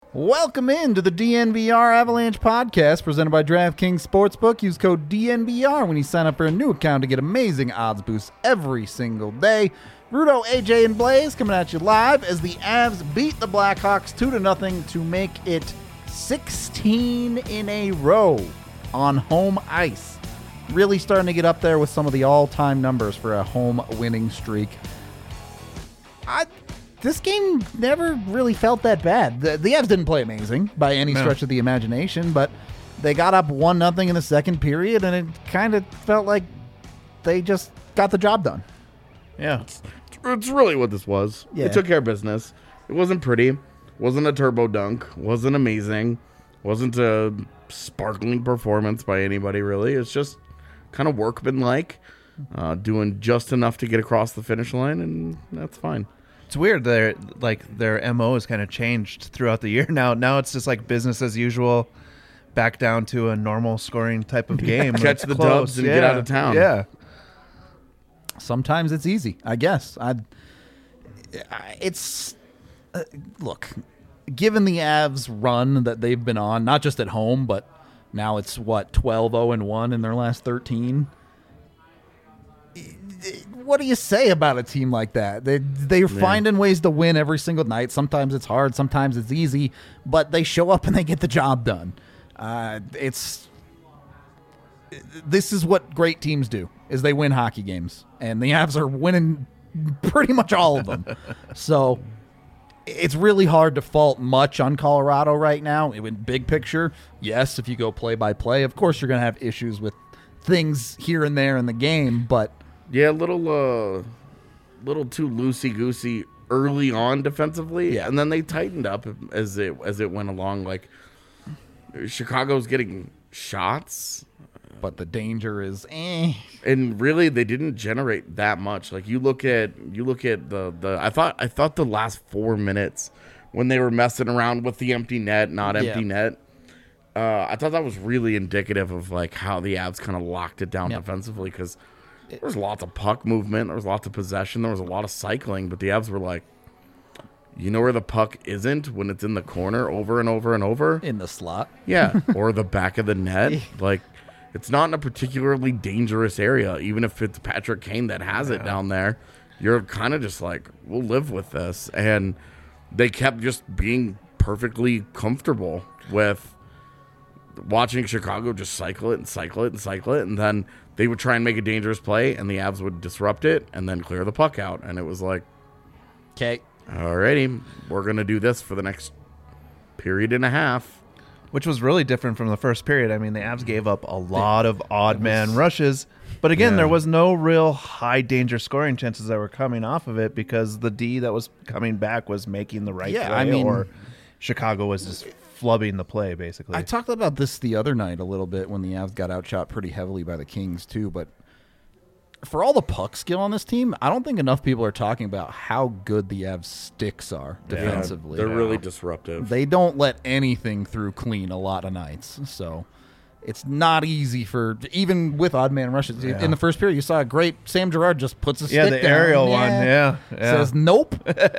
Welcome into the DNVR Avalanche podcast presented by DraftKings Sportsbook. Use code DNVR when you sign up for a new account to get amazing odds boosts every single day. Rudo, AJ, and Blaze coming at you live as the Avs beat the Blackhawks 2-0 to make it 16 in a row on home ice. Really starting to get up there with some of the all-time numbers for a home winning streak. This game never really felt that bad. The Avs didn't play amazing by any stretch of the imagination, but they got up 1-0 in the second period, and it kind of felt like they just got the job done. Yeah. It's really what this was. Yeah. It took care of business. It wasn't pretty. Wasn't a turbo dunk. Wasn't amazing. Wasn't a sparkling performance by anybody, really. It's just kind of workmanlike, doing just enough to get across the finish line, and that's fine. It's weird. Their MO has kind of changed throughout the year. Now it's just like business as usual, back down to a normal scoring type of game. Catch the dubs and get out of town. Yeah. Sometimes it's easy, I guess. Look, given the Avs run that they've been on, not just at home, but now it's 12-0-1 in their last 13. What do you say about a team like that? They're finding ways to win every single night. Sometimes it's hard, sometimes it's easy, but they show up and they get the job done. This is what great teams do, is they win hockey games, and the Avs are winning pretty much all of them. So it's really hard to fault much on Colorado right now. In big picture, yes, if you go play by play, of course you're going to have issues with things here and there in the game, but yeah, little too loosey-goosey early on defensively, and then they tightened up as it went along. Like, Chicago's getting shots, but the danger is and really they didn't generate that much. Like, you look at the I thought the last 4 minutes when they were messing around with the empty net, not empty net, I thought that was really indicative of like how the Avs kind of locked it down defensively, because there was lots of puck movement, there was lots of possession, there was a lot of cycling, but the Avs were like, you know where the puck isn't when it's in the corner over and over and over? In the slot. Yeah, or the back of the net. Like, it's not in a particularly dangerous area, even if it's Patrick Kane that has it down there. You're kind of just like, we'll live with this. And they kept just being perfectly comfortable with watching Chicago just cycle it and cycle it and cycle it, and then they would try and make a dangerous play, and the Avs would disrupt it and then clear the puck out. And it was like, okay, alrighty, we're going to do this for the next period and a half. Which was really different from the first period. I mean, the Avs gave up a lot of odd man rushes, but again, there was no real high danger scoring chances that were coming off of it because the D that was coming back was making the right play, or Chicago was just flubbing the play, basically. I talked about this the other night a little bit when the Avs got outshot pretty heavily by the Kings too, but for all the puck skill on this team, I don't think enough people are talking about how good the Avs sticks are defensively. They're really disruptive. They don't let anything through clean a lot of nights, so it's not easy for, even with odd man rushes. Yeah. In the first period, you saw a great Sam Girard just puts a stick down. Yeah, the aerial one, says nope.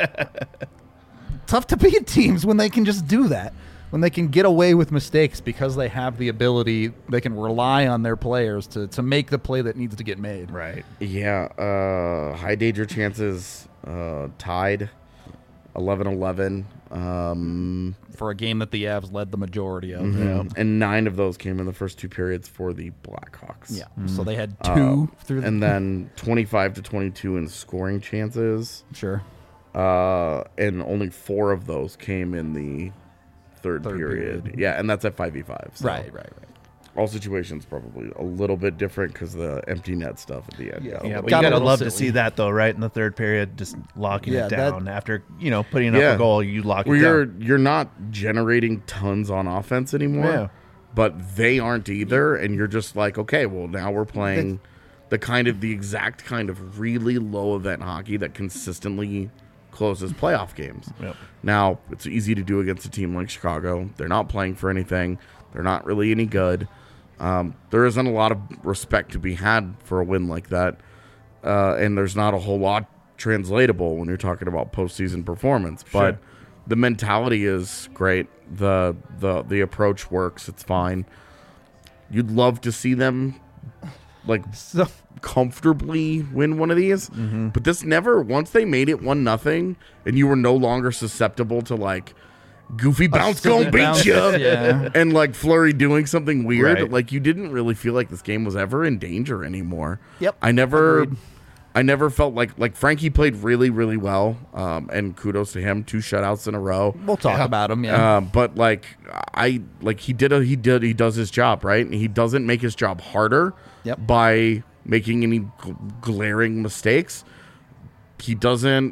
Tough to beat teams when they can just do that. When they can get away with mistakes because they have the ability, they can rely on their players to make the play that needs to get made. Right. Yeah. High danger chances tied 11-11. For a game that the Avs led the majority of. Mm-hmm. And 9 of those came in the first 2 periods for the Blackhawks. Yeah. So they had 2 through and then 25-22 in scoring chances. Sure. And only 4 of those came in the third period. Yeah, and that's at 5v5. So Right. All situations probably a little bit different because the empty net stuff at the end. Yeah, but you gotta love to see that though, right? In the third period, just locking it down after putting up a goal, you lock it down. You're not generating tons on offense anymore, but they aren't either, and you're just like, okay, well now we're playing the exact kind of really low event hockey that consistently closes playoff games. Yep. Now, it's easy to do against a team like Chicago. They're not playing for anything. They're not really any good. There isn't a lot of respect to be had for a win like that, and there's not a whole lot translatable when you're talking about postseason performance. But The mentality is great. The approach works. It's fine. You'd love to see them like comfortably win one of these, but this never. Once they made it 1-0, and you were no longer susceptible to like goofy bounce gonna beat you, and like Fleury doing something weird. Right. Like you didn't really feel like this game was ever in danger anymore. Yep. I never felt like Frankie played really, really well, and kudos to him. 2 shutouts in a row. We'll talk about him, But he does his job, right? And he doesn't make his job harder by making any glaring mistakes. He doesn't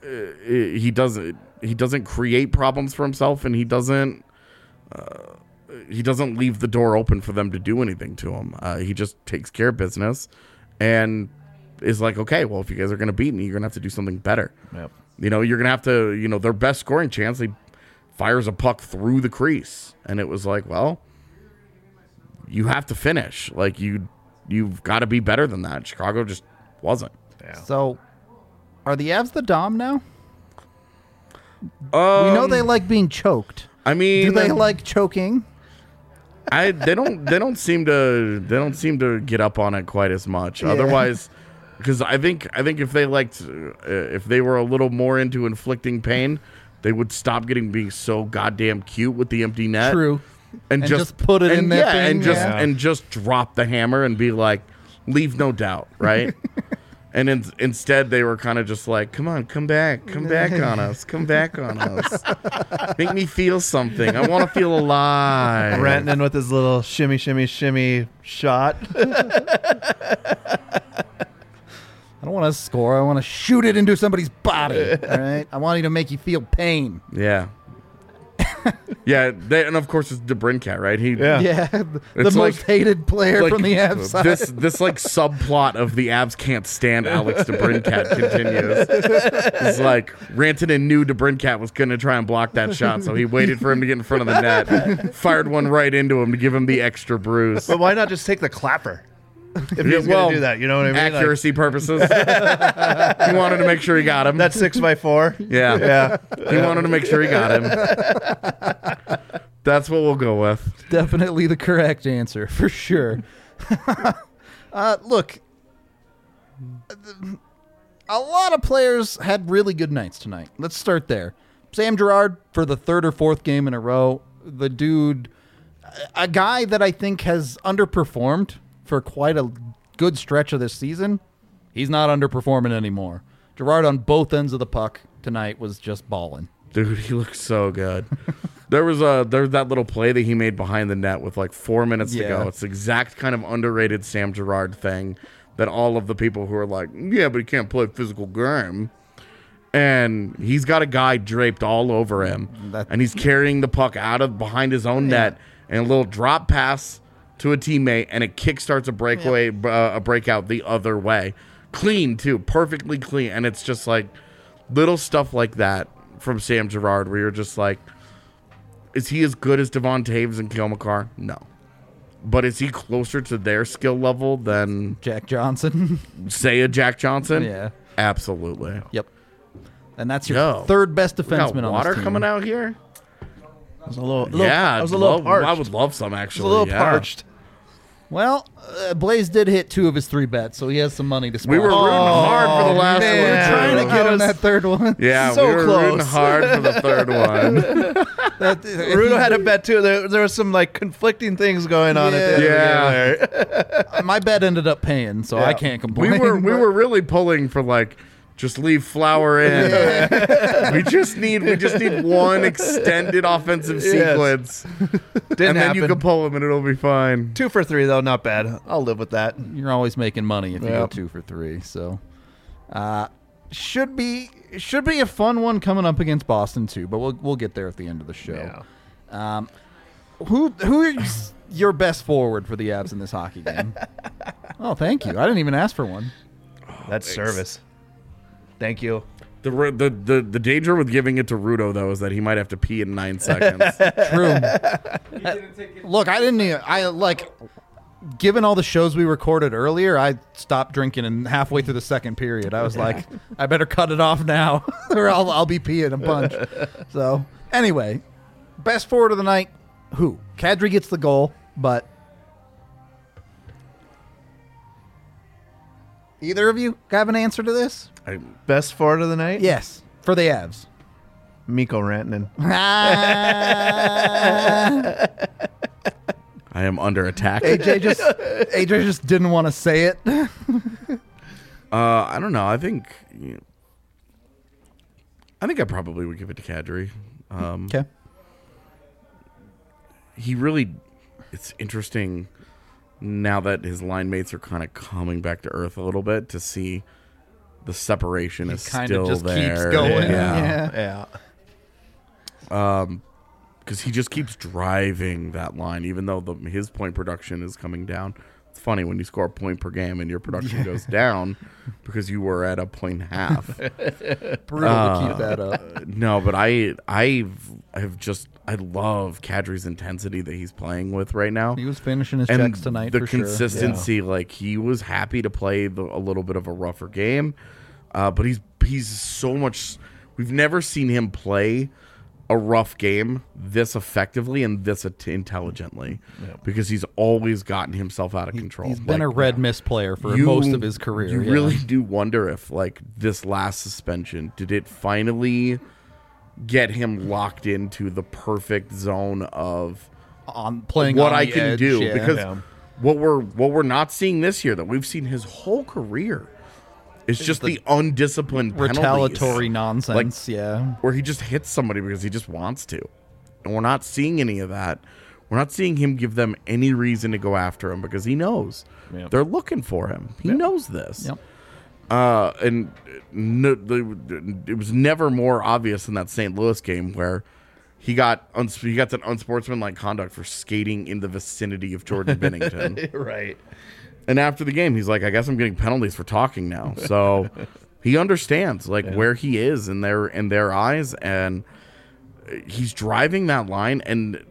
create problems for himself, and he doesn't leave the door open for them to do anything to him. He just takes care of business and is like, okay, well, if you guys are going to beat me, you're going to have to do something better. Yep. You're going to have to, their best scoring chance, he fires a puck through the crease. And it was like, well, you have to finish. Like, you've got to be better than that. Chicago just wasn't. Yeah. So, are the Avs the Dom now? We know they like being choked. I mean, do they like choking? They don't seem to get up on it quite as much. Yeah. Otherwise, because I think if they were a little more into inflicting pain, they would stop being so goddamn cute with the empty net. True. And just put it in there. Yeah, and just drop the hammer and be like, leave no doubt, right? And instead, they were kind of just like, come on, come back on us. Make me feel something. I want to feel alive. Rantanen with his little shimmy, shimmy, shimmy shot. I don't want to score. I want to shoot it into somebody's body. All right? I want you to make you feel pain. Yeah. Yeah, and of course it's DeBrincat, right? The most hated player from the Avs side. This like subplot of the Avs can't stand Alex DeBrincat continues. It's like Rantanen knew DeBrincat was going to try and block that shot, so he waited for him to get in front of the net, fired one right into him to give him the extra bruise. But why not just take the clapper? If he's going to do that, you know what I mean? Accuracy purposes. He wanted to make sure he got him. That's 6x4. Yeah. He wanted to make sure he got him. That's what we'll go with. Definitely the correct answer, for sure. Look, a lot of players had really good nights tonight. Let's start there. Sam Girard for the 3rd or 4th game in a row. The dude, a guy that I think has underperformed for quite a good stretch of this season. He's not underperforming anymore. Girard on both ends of the puck tonight was just balling. Dude, he looks so good. There was that little play that he made behind the net with like 4 minutes to go. It's the exact kind of underrated Sam Girard thing that all of the people who are like, yeah, but he can't play physical game. And he's got a guy draped all over him. And he's carrying the puck out of behind his own net, and a little drop pass to a teammate, and it kickstarts a breakout the other way. Clean, too. Perfectly clean. And it's just like little stuff like that from Sam Girard where you're just like, is he as good as Devon Taves and Cale Makar? No. But is he closer to their skill level than Jack Johnson? Say a Jack Johnson? Yeah. Absolutely. Yep. And that's your third best defenseman on this water team. coming out here? I was a little parched. I would love some, actually. I was a little parched. Well, Blaze did hit 2 of his 3 bets, so he has some money to spend. We were rooting hard for the last one. We were trying to get him that third one. Yeah, so we were close. rooting hard for the third one. Rudo had a bet too. There was some like conflicting things going on at the end of the game. My bet ended up paying, so I can't complain. We were really pulling for like, just leave Flower in. We just need one extended offensive sequence. Didn't then happen. you can pull him and it'll be fine. 2 for 3 though, not bad. I'll live with that. You're always making money if you go 2 for 3. So, should be a fun one coming up against Boston too. But we'll get there at the end of the show. Yeah. Who is your best forward for the Avs in this hockey game? Oh, thank you. I didn't even ask for one. That's service. Thank you. The danger with giving it to Rudo, though, is that he might have to pee in 9 seconds. True. Look, I didn't even. given all the shows we recorded earlier, I stopped drinking and halfway through the second period. I was like, I better cut it off now or I'll be peeing a bunch. So anyway, best forward of the night, who? Kadri gets the goal, but either of you have an answer to this? Best forward of the night? Yes, for the Avs. Mikko Rantanen. I am under attack. AJ just didn't want to say it. I don't know. I think I probably would give it to Kadri. Okay. He really, it's interesting now that his line mates are kind of coming back to earth a little bit to see the separation is kind still of just there. keeps going. Yeah. Because he just keeps driving that line, even though his point production is coming down. It's funny when you score a point per game and your production goes down because you were at a point and a half. Brutal to keep that up. No, but I love Kadri's intensity that he's playing with right now. He was finishing his And checks tonight the for sure. consistency, like he was happy to play a little bit of a rougher game, but he's so much. We've never seen him play a rough game this effectively and this intelligently because he's always gotten himself out of control. He's been a red mist player for most of his career. You really do wonder if, like, this last suspension, did it finally get him locked into the perfect zone of playing what on I the can edge, do? yeah. Because what we're not seeing this year that we've seen his whole career. It's just the undisciplined retaliatory penalties, nonsense, where he just hits somebody because he just wants to. And we're not seeing any of that. We're not seeing him give them any reason to go after him because he knows they're looking for him. He knows this. Yep. And it was never more obvious in that St. Louis game where he got that unsportsmanlike conduct for skating in the vicinity of Jordan Binnington. Right. And after the game, he's like, I guess I'm getting penalties for talking now. So he understands where he is in their eyes, and he's driving that line. And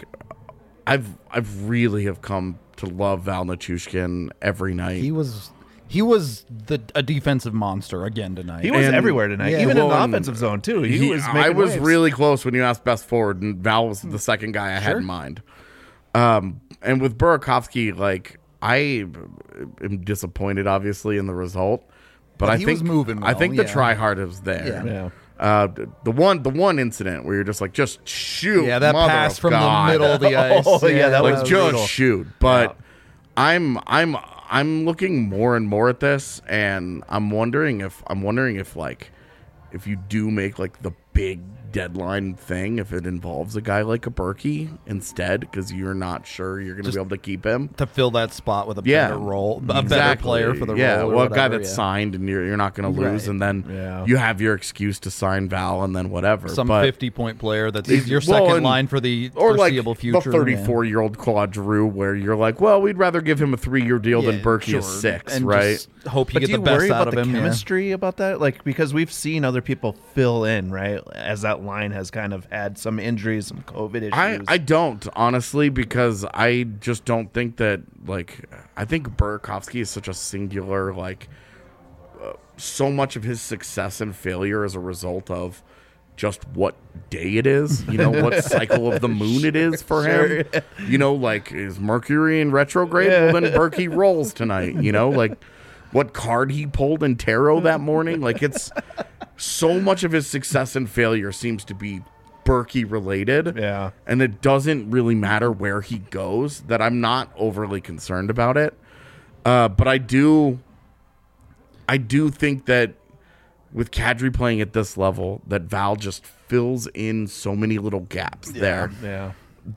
I've really have come to love Val Nichushkin every night. He was a defensive monster again tonight. He was everywhere tonight, Yeah. even in the offensive zone too. He was making I was waves. really close when you asked best forward, and Val was the second guy I had in mind. And with Burakovsky, I am disappointed, obviously, in the result, but I he think was moving well, I think the yeah. try hard is there. Yeah. The one incident where you're just shoot. Yeah, that mother pass of from God. the middle of the ice. Oh, yeah, that was Just brutal. shoot. But I'm looking more and more at this, and I'm wondering if if you do make the big deadline thing, if it involves a guy like a Berkey instead, because you're not sure you're going to be able to keep him to fill that spot with a better role, a better player for the role. Well, a guy that's signed and you're not going to lose, Right. and then you have your excuse to sign Val, and then whatever. Some but 50-point player that's your second line for the foreseeable future. The 34-year-old Claude Giroux, where you're like, well, we'd rather give him a 3-year deal than Berkey is 6, and right? just hope you But get do the you best worry out about of the him. chemistry about that? Because we've seen other people fill in, right? As that line has kind of had some injuries, some COVID issues. I don't, honestly, because I just don't think that, I think Burakovsky is such a singular, so much of his success and failure is a result of just what day it is, what cycle of the moon it is for him. Is Mercury in retrograde? Well, then Berkey rolls tonight, what card he pulled in tarot that morning. It's so much of his success and failure seems to be Berkey related. Yeah. And it doesn't really matter where he goes, that I'm not overly concerned about it. But I do think that with Kadri playing at this level, that Val just fills in so many little gaps there. Yeah.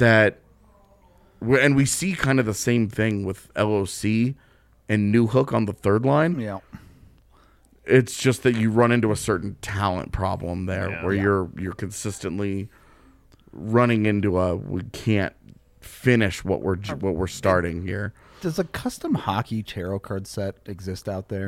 And we see kind of the same thing with LOC and Newhook on the third line. Yeah. It's just that you run into a certain talent problem there where you're consistently running into we can't finish what we're starting here. Does a custom hockey tarot card set exist out there?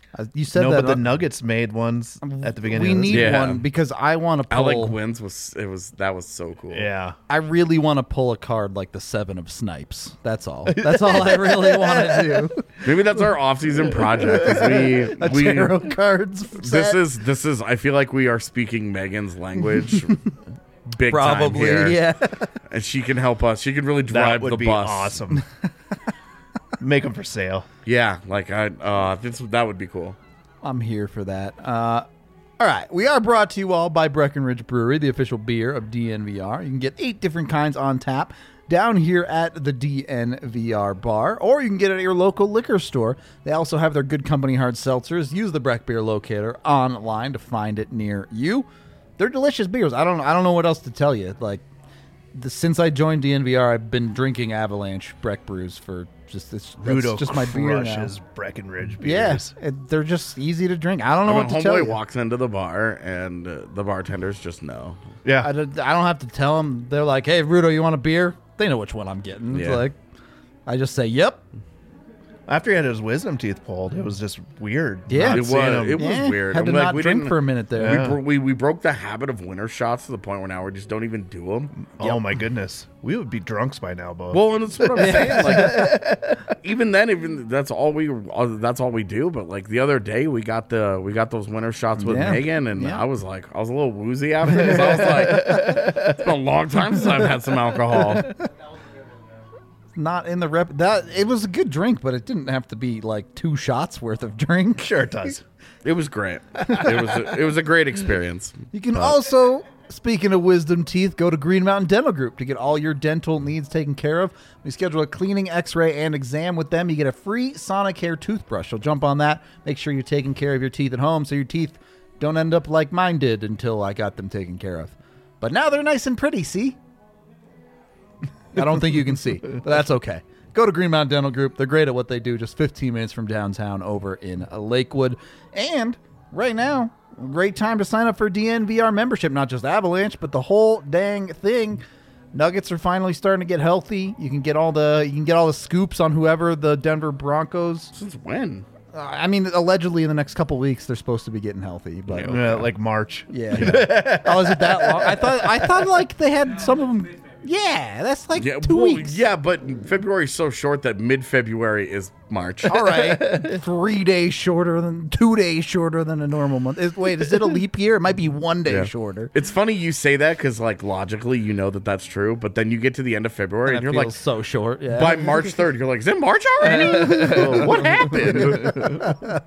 You said No, that. but the Nuggets made ones at the beginning. we of this need year. one because I want to pull. Alec Wins that was so cool. Yeah. I really want to pull a card like the 7 of Snipes. That's all. That's all I really want to do. Maybe that's our off-season project. Is A tarot cards set. This is. I feel like we are speaking Megan's language. Big Probably, time here. yeah. And she can help us. She can really That drive would the be bus. awesome. Make them for sale. Yeah, like that would be cool. I'm here for that. All right. We are brought to you all by Breckenridge Brewery, the official beer of DNVR. You can get 8 different kinds on tap down here at the DNVR bar, or you can get it at your local liquor store. They also have their Good Company hard seltzers. Use the Breck Beer Locator online to find it near you. They're delicious beers. I don't know what else to tell you. Like, since I joined DNVR, I've been drinking Avalanche Breck brews for that's Rudo just my beer now. crushes Breckenridge Yes, beers. they're just easy to drink. I don't know When what to tell homeboy you. walks into the bar and the bartenders just know. Yeah. I don't have to tell them. They're like, "Hey, Rudo, you want a beer?" They know which one I'm getting. It's Yeah. like, I just say, "Yep." After he had his wisdom teeth pulled, it was just weird. Yeah. not It seeing was. him. It was Yeah, weird. Had to I'm like, not we drink didn't- for a minute there. Yeah. We broke the habit of winter shots to the point where now we just don't even do them. Oh my goodness, we would be drunks by now, Bo. Well, and that's what I'm saying. Like, even that's all we do. But like the other day, we got those winter shots with Yeah. Megan, and Yeah. I was a little woozy after this. I was like, it's been a long time since I've had some alcohol. Not in the rep. That it was a good drink, but it didn't have to be like 2 shots worth of drink. Sure it does. It was great. It was a great experience. You can also, speaking of wisdom teeth, go to Green Mountain Dental Group to get all your dental needs taken care of. We schedule a cleaning, x-ray, and exam with them. You get a free Sonicare toothbrush. So jump on that. Make sure you're taking care of your teeth at home so your teeth don't end up like mine did until I got them taken care of. But now they're nice and pretty, see? I don't think you can see, but that's okay. Go to Green Mountain Dental Group. They're great at what they do, just 15 minutes from downtown over in Lakewood. And right now, great time to sign up for DNVR membership, not just Avalanche, but the whole dang thing. Nuggets are finally starting to get healthy. You can get all the scoops on whoever the Denver Broncos. Since when? I mean, allegedly in the next couple weeks they're supposed to be getting healthy, but Like March. yeah. Oh, is it that long? I thought like they had some of them. Yeah, that's like 2 weeks. Yeah, but February's so short that mid-February is March. All right, 3 days shorter than 2 days shorter than a normal month. Wait, is it a leap year? It might be 1 day Yeah. shorter. It's funny you say that because, like, logically you know that that's true, but then you get to the end of February and That you're feels like, so short. Yeah. by March 3rd, you're like, is it March already? What happened?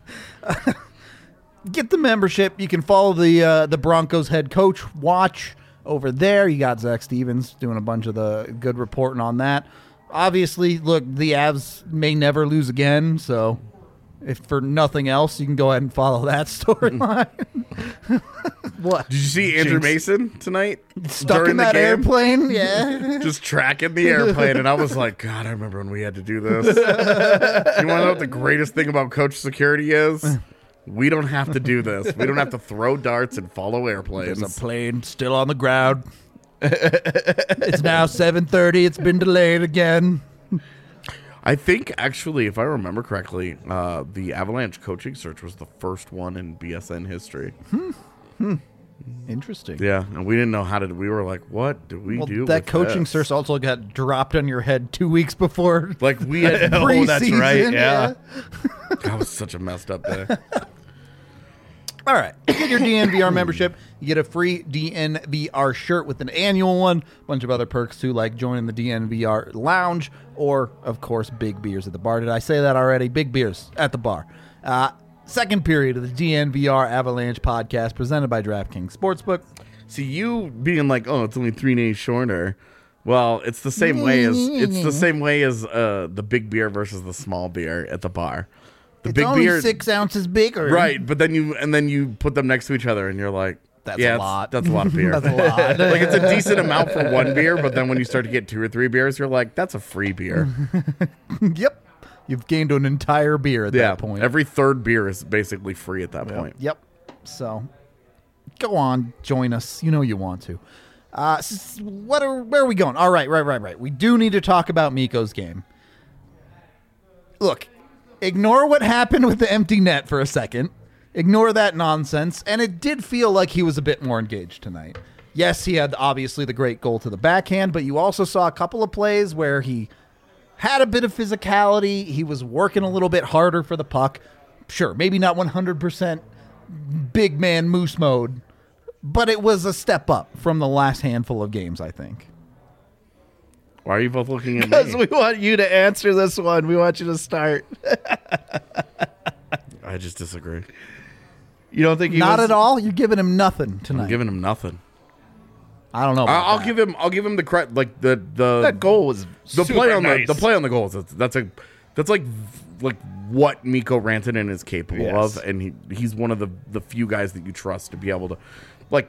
Get the membership. You can follow the Broncos head coach watch over there. You got Zach Stevens doing a bunch of the good reporting on that. Obviously, look, the Avs may never lose again, so if for nothing else, you can go ahead and follow that storyline. What? Did you see Andrew Mason tonight? Stuck during in the that game? airplane? Yeah. Just tracking the airplane, and I was like, God, I remember when we had to do this. You want to know what the greatest thing about coach security is? We don't have to do this. We don't have to throw darts and follow airplanes. There's a plane still on the ground. It's now 7:30. It's been delayed again. I think, actually, if I remember correctly, the Avalanche coaching search was the first one in BSN history. Interesting. Yeah, and we didn't know how to. We were like, "What do we do?" That with coaching this? search also got dropped on your head 2 weeks before. Like we had. Oh, that's right. preseason, Yeah. That was such a messed up day. All right. Get your DNVR membership. You get a free DNVR shirt with an annual one. A bunch of other perks, too, like joining the DNVR lounge or, of course, big beers at the bar. Did I say that already? Big beers at the bar. Second period of the DNVR Avalanche podcast presented by DraftKings Sportsbook. See, you being like, "Oh, it's only 3 days shorter." Well, it's the same way as the big beer versus the small beer at the bar. The It's big only beer, 6 ounces bigger. right? But then you put them next to each other, and you're like, That's yeah, a lot. That's a lot of beer. That's a lot. Like it's a decent amount for one beer, but then when you start to get 2 or 3 beers, you're like, that's a free beer. Yep. You've gained an entire beer at that point. Every third beer is basically free at that point. Yep. So, go on, join us. You know you want to. Where are we going? All right. We do need to talk about Mikko's game. Look, Ignore what happened with the empty net for a second. Ignore that nonsense. And it did feel like he was a bit more engaged tonight. Yes, he had obviously the great goal to the backhand, but you also saw a couple of plays where he had a bit of physicality. He was working a little bit harder for the puck. Sure, maybe not 100% big man moose mode, but it was a step up from the last handful of games, I think. Why are you both looking at me? Because we want you to answer this one. We want you to start. I just disagree. You don't think he Not was... at all? You're giving him nothing tonight. I'm giving him nothing. I don't know about I'll that. give him the credit. Like the That goal was the super play on nice. the play on the goals. That's like what Mikko Rantanen is capable Yes. of, and he's one of the few guys that you trust to be able to, like,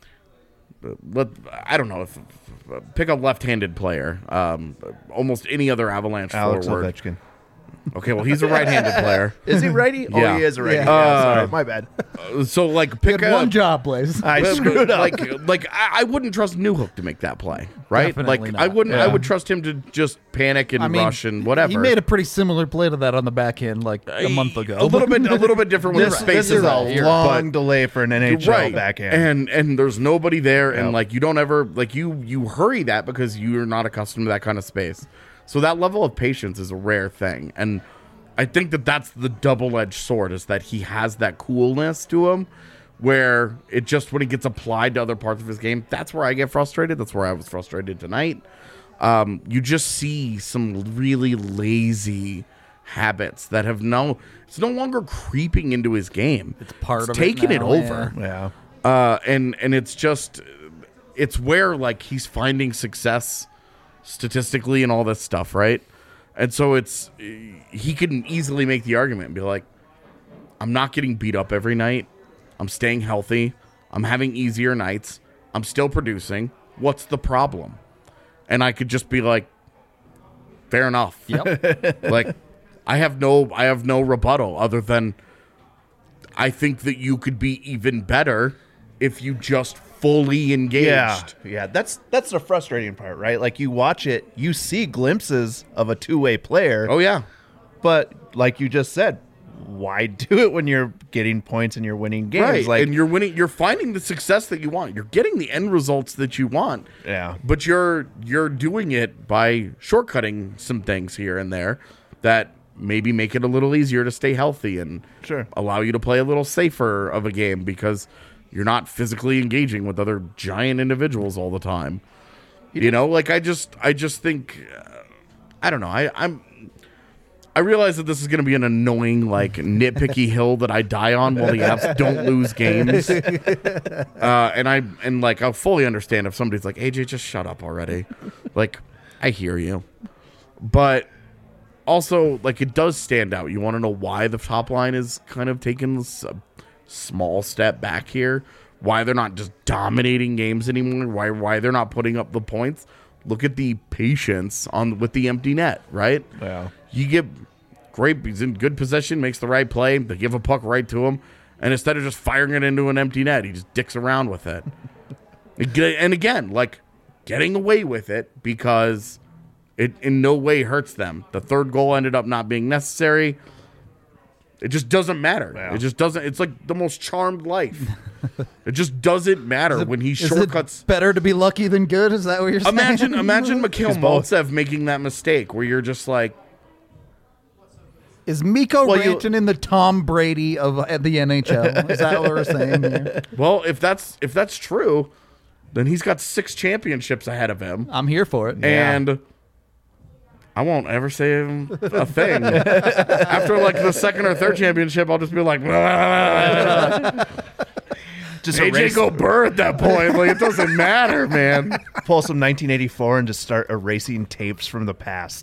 I don't know if pick a left-handed player, almost any other Avalanche Alex forward. Ovechkin. Okay, well he's a right-handed player. Is he righty? Yeah. Oh, he is a righty. Yeah. Yeah, sorry, my bad. So like You pick had a one job, Blaze. I screwed up. Like I wouldn't trust Newhook to make that play, right? Definitely like not. I wouldn't. Yeah. I would trust him to just panic and rush and whatever. He made a pretty similar play to that on the backhand like a month ago. A little bit different when the This space is out. a long delay for an NHL Right, backhand. and there's nobody there, and Yep. like you don't ever like you hurry that because you're not accustomed to that kind of space. So that level of patience is a rare thing, and I think that's the double-edged sword, is that he has that coolness to him where it just, when it gets applied to other parts of his game, that's where I get frustrated. That's where I was frustrated tonight. You just see some really lazy habits that have it's no longer creeping into his game. It's part of it taking it now, over. Yeah. And it's just, it's where like he's finding success statistically and all this stuff, right? And so he can easily make the argument and be like, I'm not getting beat up every night. I'm staying healthy. I'm having easier nights. I'm still producing. What's the problem? And I could just be like, fair enough. Yep. Like, I have no rebuttal other than I think that you could be even better if you just fully engaged. Yeah. That's the frustrating part, right? Like you watch it, you see glimpses of a two-way player. Oh, yeah. But like you just said, why do it when you're getting points and you're winning games? Right. Like, and you're winning, you're finding the success that you want. You're getting the end results that you want. Yeah. But you're doing it by shortcutting some things here and there that maybe make it a little easier to stay healthy and Sure. allow you to play a little safer of a game because you're not physically engaging with other giant individuals all the time. You know, like I just think I don't know. I realize that this is going to be an annoying, like, nitpicky hill that I die on while the Avs don't lose games. And I'll fully understand if somebody's like, AJ, just shut up already. Like, I hear you. But also, like, it does stand out. You want to know why the top line is kind of taking this small step back here? Why they're not just dominating games anymore? Why they're not putting up the points? Look at the patience with the empty net, right? Yeah. You get great, he's in good possession, makes the right play, they give a puck right to him, and instead of just firing it into an empty net, he just dicks around with it. And again, like, getting away with it because it in no way hurts them. The third goal ended up not being necessary. It just doesn't matter. Yeah. It just doesn't. It's like the most charmed life. It just doesn't matter when he shortcuts. Is it better to be lucky than good? Is that what you're saying? Imagine Mikhail both. Maltsev making that mistake where you're just like, Is Mikko Rantanen the Tom Brady of the NHL? Is that what we're saying here? well, if that's true, then he's got 6 championships ahead of him, I'm here for it. and I won't ever say a thing. After like the second or third championship, I'll just be like, Just AJ erase, Gobert at that point. Like, it doesn't matter, man. pull some 1984 and just start erasing tapes from the past.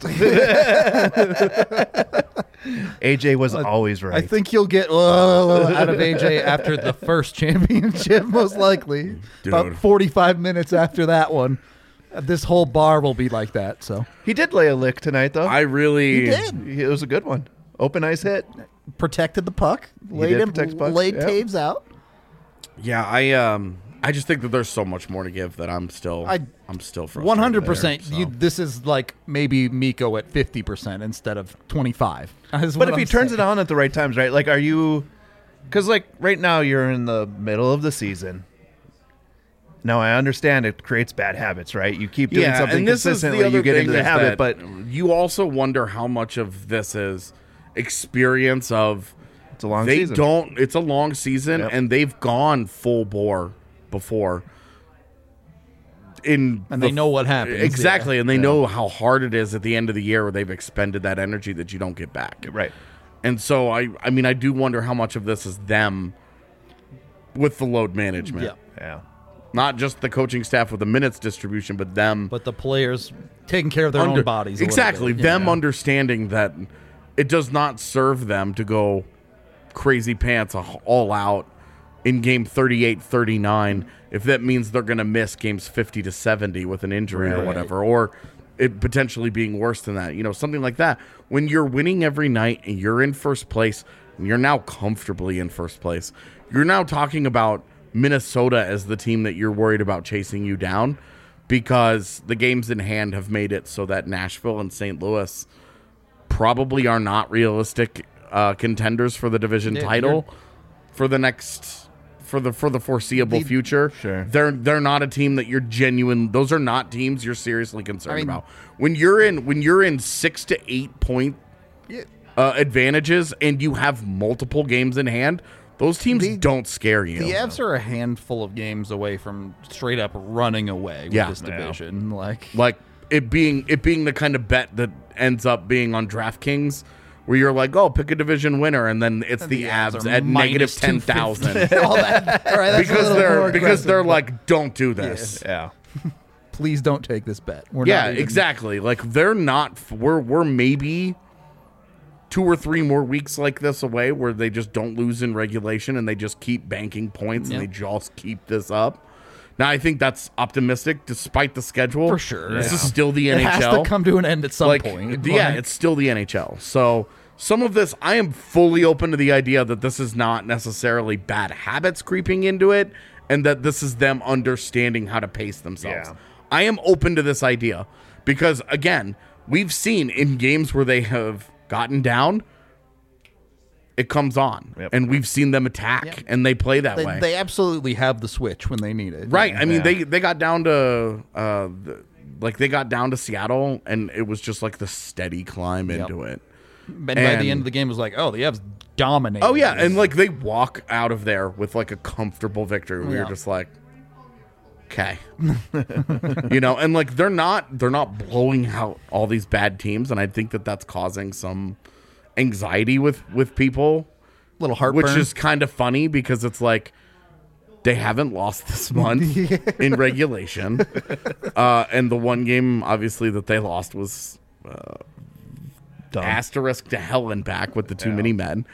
AJ was always right. I think you'll get out of AJ after the first championship, most likely. Dude. About 45 minutes after that one. This whole bar will be like that. So He did lay a lick tonight, though. I really he did. It was a good one. Open ice hit. Protected the puck. did Laid protect the puck, laid yeah. Taves out. Yeah, I just think that there's so much more to give that I'm still frustrated. 100%. There, so. This is like maybe Mikko at 50% instead of 25. But if he turns it on at the right times, right? Like, are you? Because like right now you're in the middle of the season. Now I understand it creates bad habits, right? You keep doing something consistently, you get into the habit, but you also wonder how much of this is experience of it's a long season. It's a long season, and they've gone full bore before. And they know what happens. Exactly, and they know how hard it is at the end of the year where they've expended that energy that you don't get back. Right. And so I mean, I do wonder how much of this is them with the load management. Yeah. Not just the coaching staff with the minutes distribution, but them. But the players taking care of their own bodies. Exactly. Them understanding that it does not serve them to go crazy pants all out in game 38-39 if that means they're going to miss games 50 to 70 with an injury or whatever, or it potentially being worse than that. Something like that. When you're winning every night and you're in first place, and you're now comfortably in first place, you're now talking about Minnesota as the team that you're worried about chasing you down, because the games in hand have made it so that Nashville and St. Louis probably are not realistic contenders for the division title for the foreseeable future. Sure. They're not a team that you're genuine. Those are not teams you're seriously concerned about. When you're in 6 to 8 point advantages and you have multiple games in hand, those teams don't scare you. The Avs are a handful of games away from straight up running away with this division. Like it being the kind of bet that ends up being on DraftKings, where you're like, oh, pick a division winner, and then it's the Avs at negative 10,000 because they're like, don't do this. Yeah. Please don't take this bet. Exactly. Like they're not. We're maybe 2 or 3 more weeks like this away where they just don't lose in regulation and they just keep banking points and they just keep this up. Now, I think that's optimistic despite the schedule. For sure. This is still the NHL. It has to come to an end at some point. Yeah, it's still the NHL. So some of this, I am fully open to the idea that this is not necessarily bad habits creeping into it and that this is them understanding how to pace themselves. Yeah. I am open to this idea because, again, we've seen in games where they have gotten down, it comes on. Yep. And we've seen them attack, and they play that way. They absolutely have the switch when they need it. Right. I mean, they got down to they got down to Seattle, and it was just like the steady climb into it. And by the end of the game, it was like, oh, the Avs dominated. Oh, yeah, and like they walk out of there with like a comfortable victory. Where you're just like, okay. And like they're not blowing out all these bad teams, and I think that that's causing some anxiety with people, little heartburn, which is kind of funny because it's like they haven't lost this month in regulation, and the one game obviously that they lost was asterisk to hell and back with the too many men.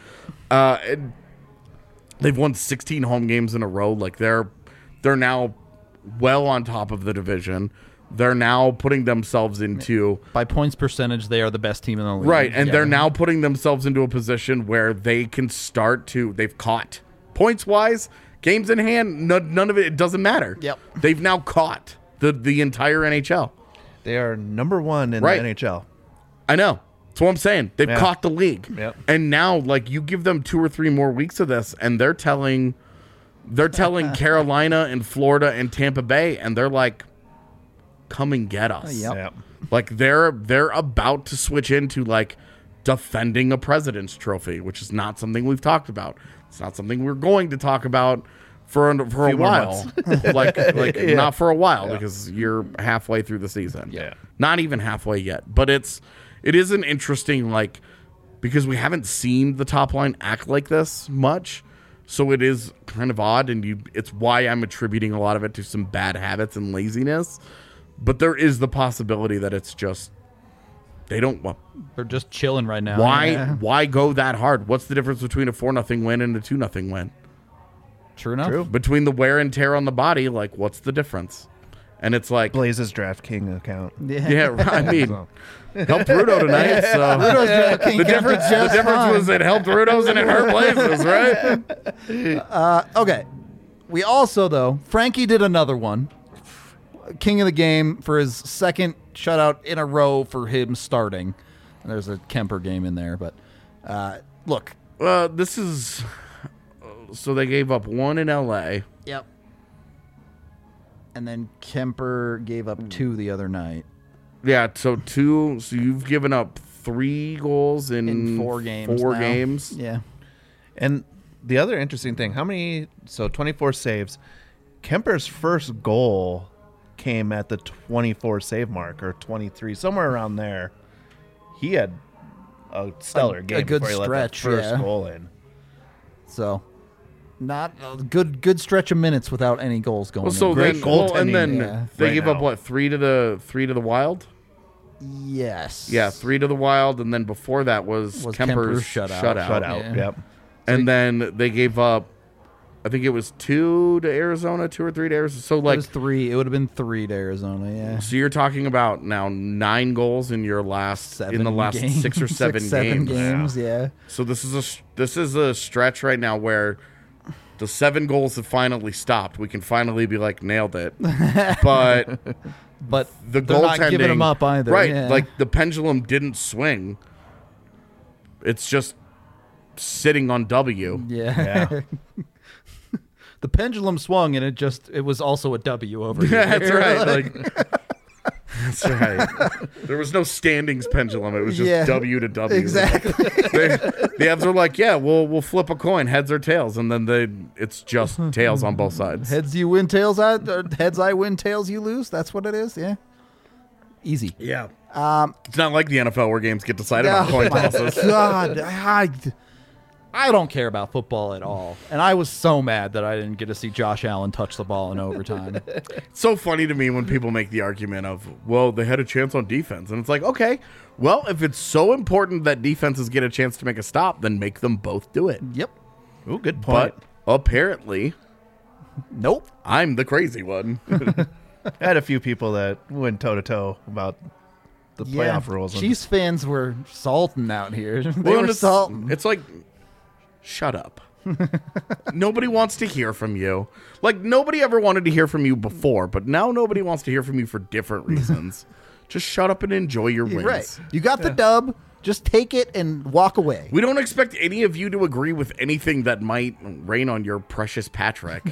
They've won 16 home games in a row. Like they're now well on top of the division. They're now putting themselves into... By points percentage, they are the best team in the league. Right, and they're now putting themselves into a position where they can start to... They've caught. Points-wise, games in hand, none of it doesn't matter. Yep. They've now caught the entire NHL. They are number 1 in the NHL. I know. That's what I'm saying. They've caught the league. Yep. And now, like, you give them 2 or 3 more weeks of this, and they're telling Carolina and Florida and Tampa Bay, and they're like... come and get us. Yep. Like they're about to switch into like defending a President's Trophy, which is not something we've talked about. It's not something we're going to talk about for a while. like not for a while because you're halfway through the season. Yeah. Not even halfway yet. But it is an interesting because we haven't seen the top line act like this much. So it is kind of odd, and it's why I'm attributing a lot of it to some bad habits and laziness. But there is the possibility that it's just they're just chilling right now. Why go that hard? What's the difference between a 4-0 win and a 2-0 win? True enough. Between the wear and tear on the body, like what's the difference? And it's like Blaze's DraftKings account. Yeah, I mean, helped Rudo tonight. So Rudo's DraftKings the difference was it helped Rudo's and it hurt Blaze's, right? Okay. We also, though, Frankie did another one. King of the game for his second shutout in a row for him starting. There's a Kemper game in there, but look. This is... So they gave up one in L.A. Yep. And then Kemper gave up 2 the other night. Yeah, so 2. So you've given up 3 goals in 4 games. 4 now. games. Yeah. And the other interesting thing, 24 saves. Kemper's first goal came at the 24 save mark, or 23, somewhere around there. He had a stellar game a good before he stretch, let that first goal in. So, not a good stretch of minutes without any goals going. Well, so in. then, goaltending they right gave now. up what 3 to the Wild. Yes. Yeah, 3 to the Wild, and then before that was Kemper's shutout. Yeah. Yep. And then they gave up, I think it was 2 to Arizona, 2 or 3 to Arizona. So It like was 3. It would have been 3 to Arizona. Yeah. So you're talking about now 9 goals in your last 6 or 7 games. Yeah. So this is a stretch right now where the 7 goals have finally stopped. We can finally be like nailed it, but the they're not goaltending, giving them up either. right? Yeah. Like the pendulum didn't swing. It's just sitting on W. Yeah. The pendulum swung, and it was also a W over here. That's right. Like, that's right. There was no standings pendulum. It was just W to W. Exactly. The Avs are like, yeah, we'll flip a coin, heads or tails, and then it's just tails on both sides. Heads you win, tails heads I win, tails you lose. That's what it is. Yeah. Easy. Yeah. It's not like the NFL where games get decided on coin tosses. God, I don't care about football at all. And I was so mad that I didn't get to see Josh Allen touch the ball in overtime. It's so funny to me when people make the argument of, well, they had a chance on defense. And it's like, okay, well, if it's so important that defenses get a chance to make a stop, then make them both do it. Yep. Ooh, good point. But apparently, Nope. I'm the crazy one. I had a few people that went toe-to-toe about the playoff rules. Chiefs fans were salting out here. They Well, were it's salting. It's like, shut up. Nobody wants to hear from you. Like, nobody ever wanted to hear from you before, but now nobody wants to hear from you for different reasons. Just shut up and enjoy your wins. Right. You got the dub. Just take it and walk away. We don't expect any of you to agree with anything that might rain on your precious Patrick.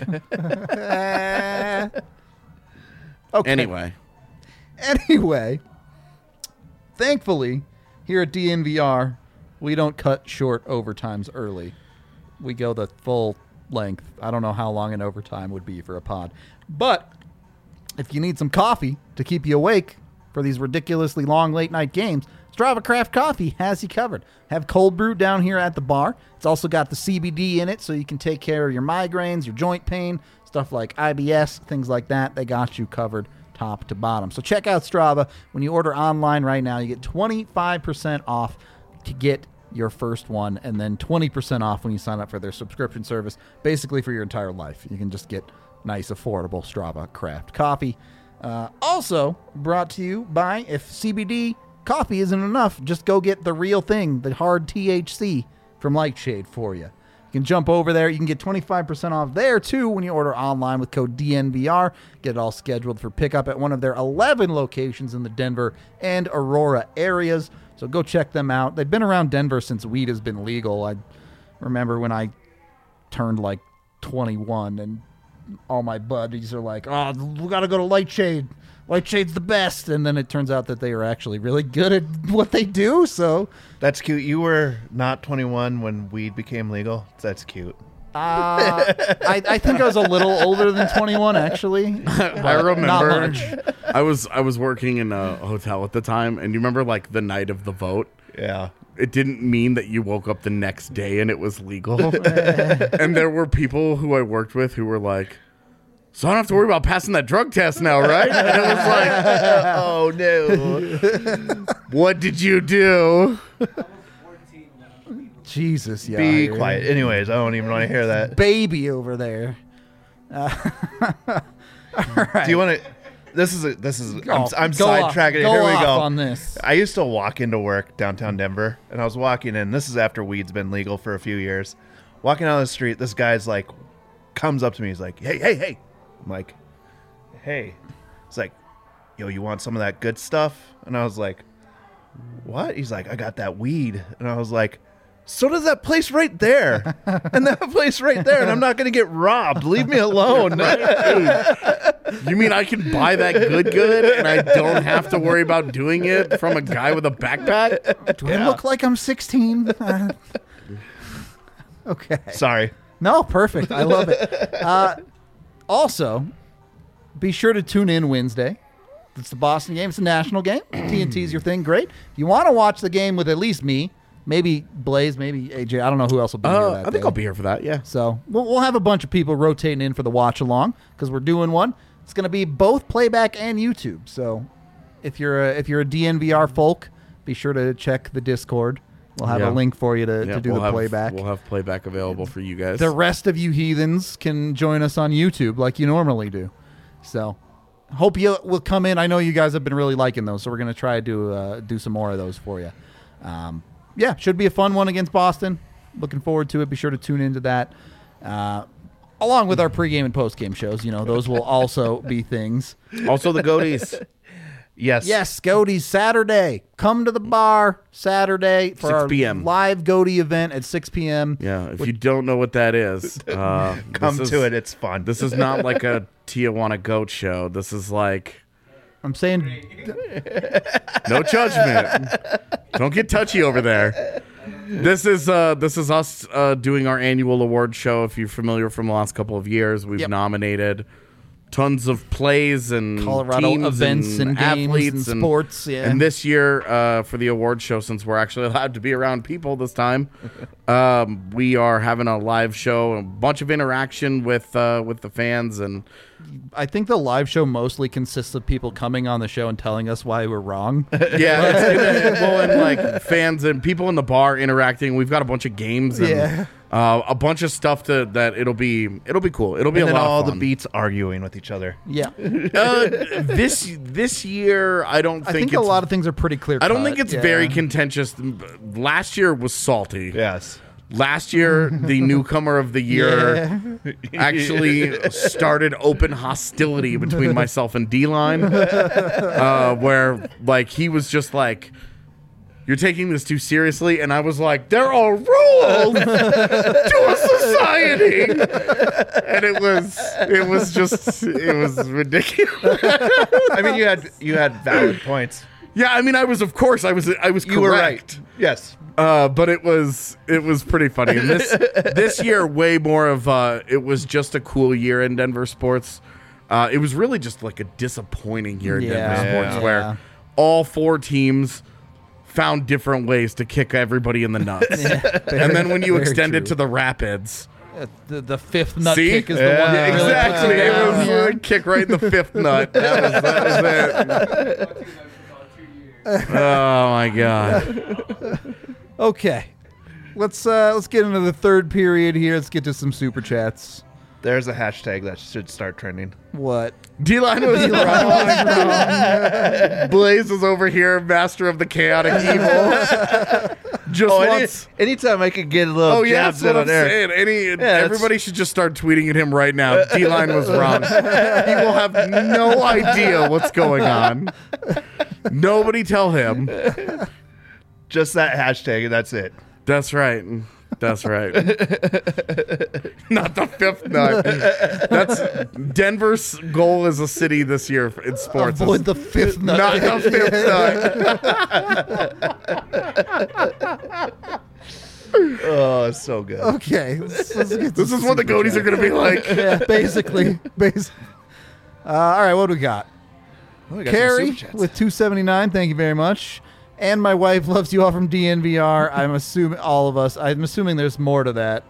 Okay. Anyway, thankfully, here at DNVR, we don't cut short overtimes early. We go the full length. I don't know how long an overtime would be for a pod. But if you need some coffee to keep you awake for these ridiculously long late night games, Strava Craft Coffee has you covered. Have cold brew down here at the bar. It's also got the CBD in it so you can take care of your migraines, your joint pain, stuff like IBS, things like that. They got you covered top to bottom. So check out Strava. When you order online right now, you get 25% off to get your first one, and then 20% off when you sign up for their subscription service, basically for your entire life. You can just get nice, affordable Strava Craft Coffee. Also brought to you by, if CBD coffee isn't enough, just go get the real thing, the hard THC from Lightshade for you. You can jump over there. You can get 25% off there, too, when you order online with code DNVR. Get it all scheduled for pickup at one of their 11 locations in the Denver and Aurora areas. So go check them out. They've been around Denver since weed has been legal. I remember when I turned like 21 and all my buddies are like, oh, we got to go to Lightshade. Lightshade's the best. And then it turns out that they are actually really good at what they do. So That's cute. You were not 21 when weed became legal. That's cute. I think I was a little older than 21, actually. I remember Not much. I was working in a hotel at the time, and you remember like the night of the vote? Yeah. It didn't mean that you woke up the next day and it was legal. And there were people who I worked with who were like, so I don't have to worry about passing that drug test now, right? And it was like, Oh, no. what did you do? Jesus, yeah. Be quiet. Anyways, I don't even want to hear that. Baby over there. Do you want to... This is I'm Go off. sidetracking it. Go Here we off go. on this. I used to walk into work downtown Denver, and I was walking in. This is after weed's been legal for a few years. Walking down the street, this guy's like comes up to me. He's like, hey. I'm like, hey. It's like, yo, you want some of that good stuff? And I was like, what? He's like, I got that weed. And I was like, so does that place right there. And that place right there. And I'm not going to get robbed. Leave me alone. You mean I can buy that good and I don't have to worry about doing it from a guy with a backpack? Do I look like I'm 16? Okay. Sorry. No, perfect. I love it. Also, be sure to tune in Wednesday. It's the Boston game. It's a national game. TNT's your thing. Great. If you want to watch the game with at least me, maybe Blaze, maybe AJ. I don't know who else will be here that I think day. I'll be here for that, yeah. So we'll have a bunch of people rotating in for the watch along because we're doing one. It's going to be both playback and YouTube. So if you're a DNVR folk, be sure to check the Discord. We'll have a link for you to do the playback. We'll have playback available for you guys. The rest of you heathens can join us on YouTube like you normally do. So hope you will come in. I know you guys have been really liking those, so we're going to try to do some more of those for you. Yeah, should be a fun one against Boston. Looking forward to it. Be sure to tune into that. Along with our pregame and postgame shows, those will also be things. Also the Goaties. Yes, Goaties Saturday. Come to the bar Saturday for 6 our p.m. live Goatie event at 6 p.m. Yeah, if you don't know what that is, come to it. It's fun. This is not like a Tijuana goat show. This is like... I'm saying... No judgment. Don't get touchy over there. This is us doing our annual award show. If you're familiar from the last couple of years, we've nominated tons of plays and Colorado teams events and games athletes and sports. Yeah. And this year, for the award show, since we're actually allowed to be around people this time, we are having a live show, a bunch of interaction with the fans, and I think the live show mostly consists of people coming on the show and telling us why we're wrong. and like fans and people in the bar interacting. We've got a bunch of games and a bunch of stuff that it'll be cool. It'll be and a lot all of fun. the beats arguing with each other. Yeah. This year, I think a lot of things are pretty clear. I don't think it's very contentious. Last year was salty. Yes. Last year, the newcomer of the year actually started open hostility between myself and D-Line, where like he was just like, "You're taking this too seriously," and I was like, "There are rules to a society," and it was ridiculous. I mean, you had valid points. Yeah, I mean, I was correct. You were right. Yes. But it was pretty funny. And this year, way more of it was just a cool year in Denver sports. It was really just like a disappointing year in Denver sports, where all four teams found different ways to kick everybody in the nuts. And then when you extend it to the Rapids, the fifth nut kick is the one that really exactly. puts it down. It was a kick right in the fifth nut. That was it. Oh my god. Okay, let's get into the third period here. Let's get to some super chats. There's a hashtag that should start trending. What? D-Line was wrong. Blaze is over here, master of the chaotic evil. Just wants... anytime I could get a little jabs in on there. Everybody should just start tweeting at him right now. D-Line was wrong. He will have no idea what's going on. Nobody tell him. Just that hashtag, and that's it. That's right. That's right. Not the fifth nut. That's Denver's goal as a city this year in sports. Avoid the fifth nut. Not the fifth nut. Oh, it's so good. Okay. Let's get This is what the Goaties are going to be like. Yeah, basically. All right, what do we got? Carrie with 279. Thank you very much. And my wife loves you all from DNVR. I'm assuming all of us. I'm assuming there's more to that.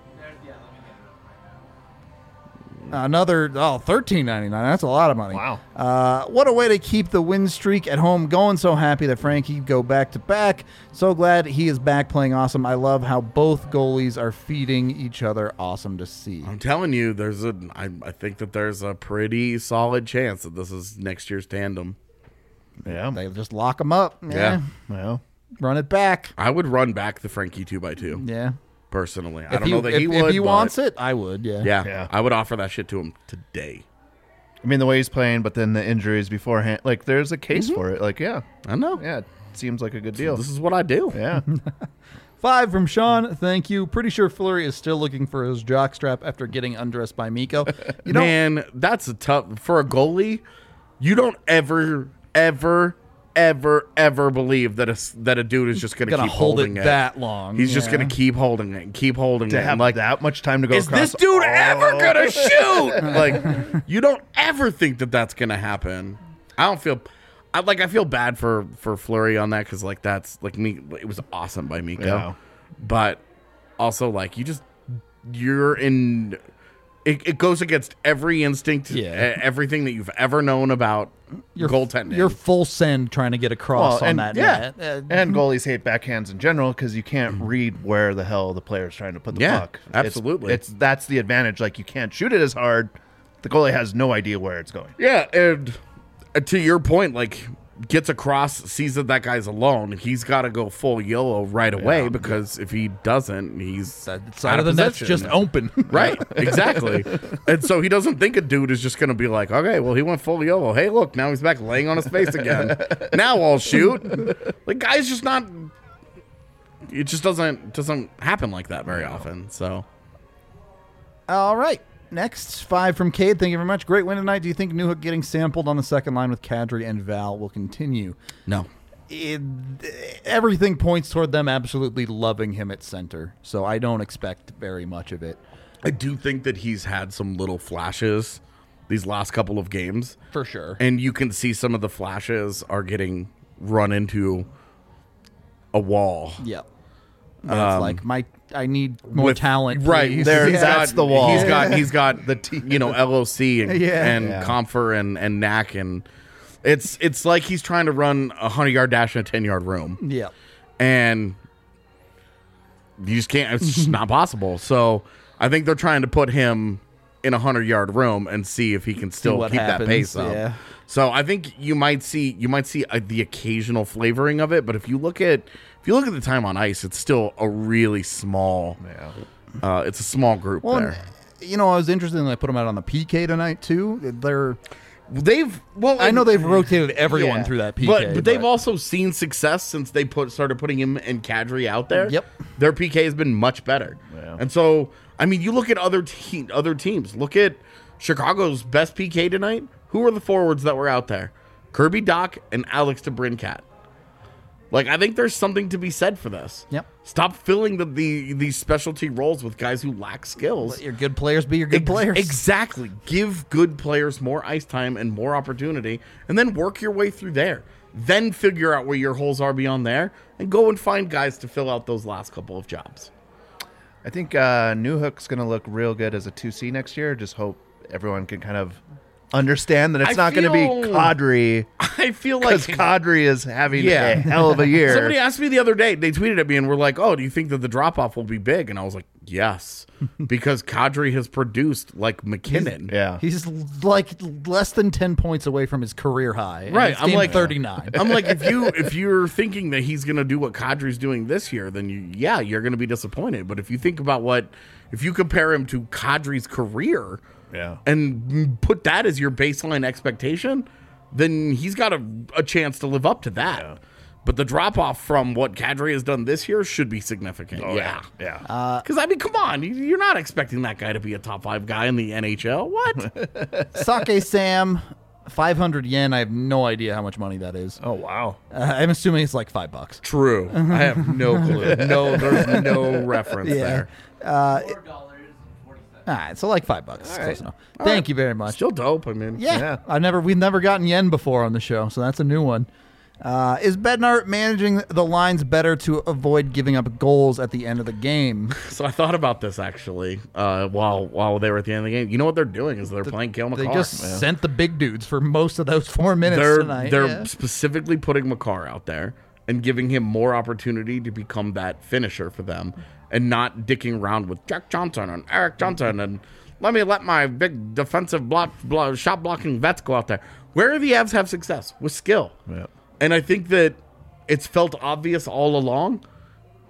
Another $13.99. That's a lot of money. Wow. What a way to keep the win streak at home going. So happy that Frankie go back to back. So glad he is back playing awesome. I love how both goalies are feeding each other. Awesome to see. I'm telling you, I think that there's a pretty solid chance that this is next year's tandem. Yeah. They just lock them up. Yeah. Well, Run it back. I would run back the Frankie 2x2. Yeah. personally. I don't know that he would. If he but wants it, I would, yeah. Yeah, I would offer that shit to him today. I mean, the way he's playing, but then the injuries beforehand, like there's a case for it. Like, yeah, I know. yeah, it seems like a good deal. This is what I do. Yeah, 5 from Sean. Thank you. Pretty sure Fleury is still looking for his jockstrap after getting undressed by Miko. You know, Man, that's a tough for a goalie. You don't ever believe that a dude is just going to gonna keep hold holding it it that long. He's just yeah. going to keep holding it and keep holding it. to have and like that much time to go. is across this dude ever gonna shoot? Like, you don't ever think that that's gonna happen. I feel bad for Fleury on that because like that's like me. It was awesome by Miko, Yeah. but also like you're in. It goes against every instinct, everything that you've ever known about goaltending. You're full send trying to get across on that net. And goalies hate backhands in general because you can't read where the hell the player's trying to put the Yeah, puck. absolutely. That's the advantage. Like you can't shoot it as hard. The goalie has no idea where it's going. Yeah, and to your point, like gets across, sees that guy's alone. He's got to go full YOLO right away because if he doesn't, he's That side of the net's just open. Right, exactly. And so he doesn't think a dude is just going to be like, okay, well, he went full YOLO. Hey, look, now he's back laying on his face again. Now I'll shoot. Like, guy's just not. It just doesn't happen like that very often. So, All right. Next, 5 from Cade. Thank you very much. Great win tonight. Do you think Newhook getting sampled on the second line with Kadri and Val will continue? no. Everything points toward them absolutely loving him at center, so I don't expect very much of it. I do think that he's had some little flashes these last couple of games. For sure. And you can see some of the flashes are getting run into a wall. Yep. It's like I need more talent. Right please. there. Yeah. That's the wall. He's got the LOC and Comfer and Knack, and it's like he's trying to run a 100-yard dash in a 10-yard room. Yeah. And you just can't. It's just not possible. So I think they're trying to put him in a 100-yard room and see if he can still keep that pace up. Yeah. So I think you might see the occasional flavoring of it, but if you look at the time on ice, it's still a really small. Yeah. It's a small group there. You know, I was interested when I put them out on the PK tonight too. I know they've rotated everyone through that PK, but they've also seen success since they started putting him and Kadri out there. Yep, their PK has been much better. Yeah. And so, I mean, you look at other teams. Look at Chicago's best PK tonight. Who are the forwards that were out there? Kirby Dach and Alex DeBrincat. Like, I think there's something to be said for this. Yep. Stop filling these specialty roles with guys who lack skills. Let your good players be your good players. Exactly. Give good players more ice time and more opportunity, and then work your way through there. Then figure out where your holes are beyond there, and go and find guys to fill out those last couple of jobs. I think Newhook's going to look real good as a 2C next year. Just hope everyone can kind of understand that it's not going to be Kadri. I feel like Kadri is having a hell of a year. Somebody asked me the other day, they tweeted at me and were like, oh, do you think that the drop-off will be big? And I was like, yes, because Kadri has produced like McKinnon. He's like less than 10 points away from his career high. Right. I'm like 39. I'm like, if you're thinking that he's going to do what Kadri's doing this year, then you're going to be disappointed. But if you think about if you compare him to Kadri's career, and put that as your baseline expectation, then he's got a chance to live up to that. Yeah. But the drop-off from what Kadri has done this year should be significant. Yeah. Because, I mean, come on. You're not expecting that guy to be a top 5 guy in the NHL. What? Sake Sam, 500 yen. I have no idea how much money that is. Oh, wow. I'm assuming it's like $5. True. I have no clue. No, there's no reference there. All right, so like $5. Close enough. Thank you very much. Still dope. I mean, we've never gotten yen before on the show, so that's a new one. Is Bednar managing the lines better to avoid giving up goals at the end of the game? So I thought about this actually while they were at the end of the game. You know what they're doing is they're playing Cale Makar. They just sent the big dudes for most of those 4 minutes tonight. They're specifically putting Makar out there and giving him more opportunity to become that finisher for them, and not dicking around with Jack Johnson and Eric Johnson and let my big defensive shot blocking vets go out there. Where do the Avs have success? With skill. Yeah. And I think that it's felt obvious all along.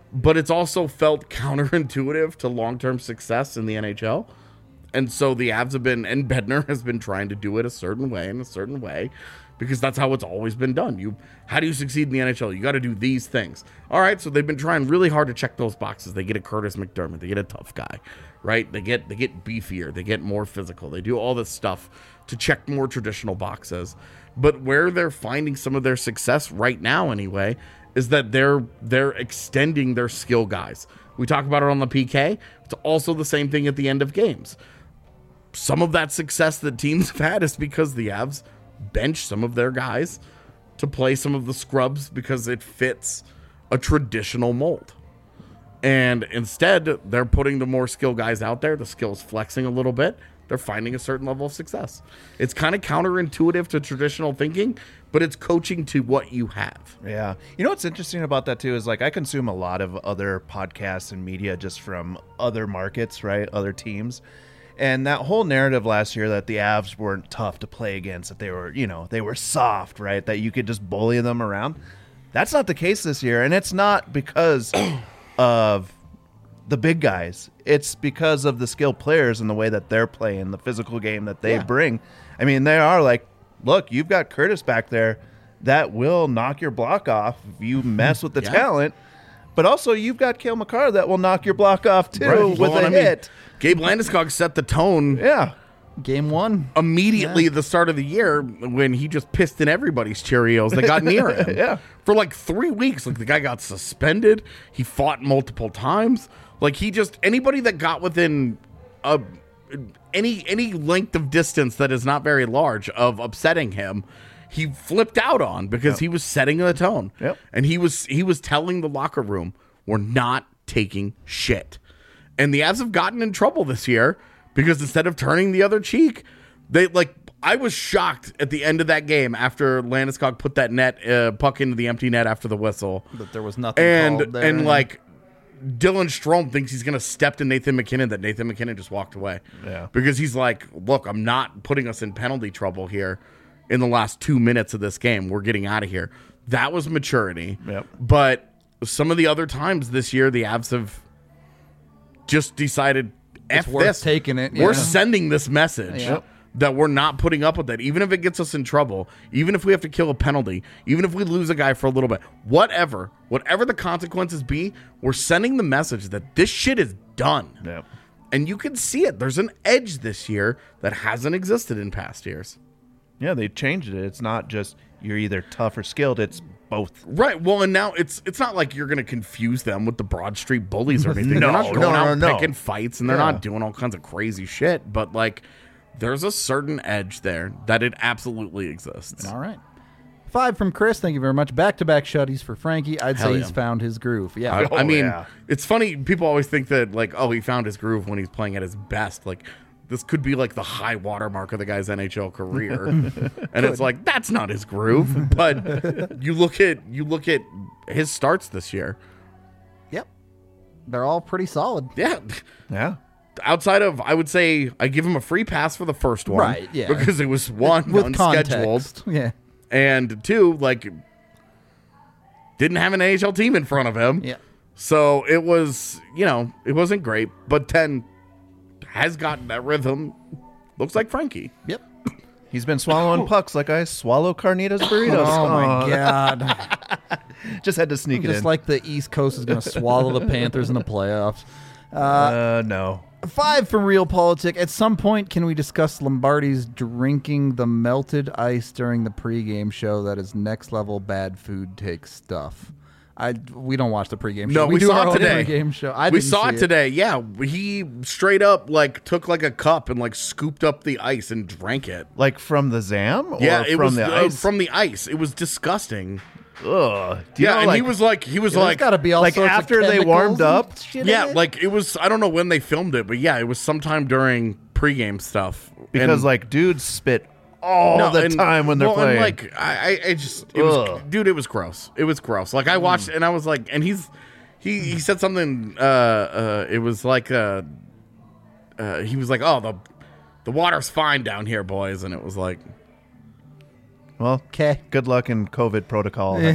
but it's also felt counterintuitive to long-term success in the NHL. And so the Avs have been, and Bednar has been trying to do it a certain way, because that's how it's always been done. How do you succeed in the NHL? You got to do these things. All right, so they've been trying really hard to check those boxes. They get a Curtis McDermott. They get a tough guy, right? They get beefier. They get more physical. They do all this stuff to check more traditional boxes. But where they're finding some of their success right now, anyway, is that they're extending their skill guys. We talk about it on the PK. It's also the same thing at the end of games. Some of that success that teams have had is because the Avs bench some of their guys to play some of the scrubs because it fits a traditional mold. And instead, they're putting the more skill guys out there. The skill's flexing a little bit. They're finding a certain level of success. It's kind of counterintuitive to traditional thinking, but it's coaching to what you have. Yeah. You know what's interesting about that too is like I consume a lot of other podcasts and media just from other markets, right? Other teams. And that whole narrative last year that the Avs weren't tough to play against, that they were, they were soft, right? That you could just bully them around. That's not the case this year. And it's not because of the big guys. It's because of the skilled players and the way that they're playing, the physical game that they bring. I mean, they are like, look, you've got Curtis back there that will knock your block off if you mess with the talent. But also, you've got Cale Makar that will knock your block off, too, with a hit. Gabe Landeskog set the tone. Yeah. Game one. Immediately at the start of the year when he just pissed in everybody's Cheerios that got near him. For like 3 weeks. Like, the guy got suspended. He fought multiple times. Like, anybody that got within any length of distance that is not very large of upsetting him, he flipped out on because he was setting the tone. And he was telling the locker room, we're not taking shit. And the Avs have gotten in trouble this year because instead of turning the other cheek, I was shocked at the end of that game after Landeskog put that puck into the empty net after the whistle. But there was nothing called there. And like Dylan Strome thinks he's going to step to Nathan McKinnon, that Nathan McKinnon just walked away. Because he's like, look, I'm not putting us in penalty trouble here in the last 2 minutes of this game. We're getting out of here. That was maturity. But some of the other times this year, the Avs have just decided, F this. Taking it. We're sending this message that we're not putting up with it, even if it gets us in trouble, even if we have to kill a penalty, even if we lose a guy for a little bit, whatever the consequences be, we're sending the message that this shit is done. And you can see it. There's an edge this year that hasn't existed in past years. Yeah, they changed it. It's not just you're either tough or skilled. It's both. Right. Well, and now it's not like you're going to confuse them with the Broad Street Bullies or anything. They're not going out picking fights, and they're not doing all kinds of crazy shit. But, like, there's a certain edge there that it absolutely exists. All right. 5 from Chris. Thank you very much. Back-to-back shutties for Frankie. I'd say he's found his groove. Yeah. I mean, it's funny. People always think that, like, oh, he found his groove when he's playing at his best. Like, this could be like the high watermark of the guy's NHL career. And it's like, that's not his groove. But you look at his starts this year. Yep. They're all pretty solid. Yeah. Outside of, I would say, I give him a free pass for the first one. Right, yeah. Because it was one, with unscheduled. Context. Yeah. And 2, like, didn't have an NHL team in front of him. Yeah. So it was, it wasn't great. But 10 has gotten that rhythm. Looks like Frankie. Yep. He's been swallowing pucks like I swallow carnitas burritos. Oh, my God. Just had to sneak it in. Just like the East Coast is going to swallow the Panthers in the playoffs. No. 5 from Real Politic. At some point, can we discuss Lombardi's drinking the melted ice during the pregame show? That is next level bad food take stuff. We don't watch the pregame show. No, we saw our it today. Pregame show. We saw it today. Yeah, he straight up like took like a cup and like scooped up the ice and drank it. Like from the Zam? Or it from was the ice? From the ice. It was disgusting. Ugh. And he was like, got to be all like sorts after of they warmed up. Yeah, like it was. I don't know when they filmed it, but yeah, it was sometime during pregame stuff. Because like dudes spit all the time when they're playing. And like I just, it was, dude, it was gross. It was gross. Like I watched and I was like, and he said something. It was like he was like, oh, the water's fine down here, boys, and it was like, Well, Okay. good luck in COVID protocol. Well,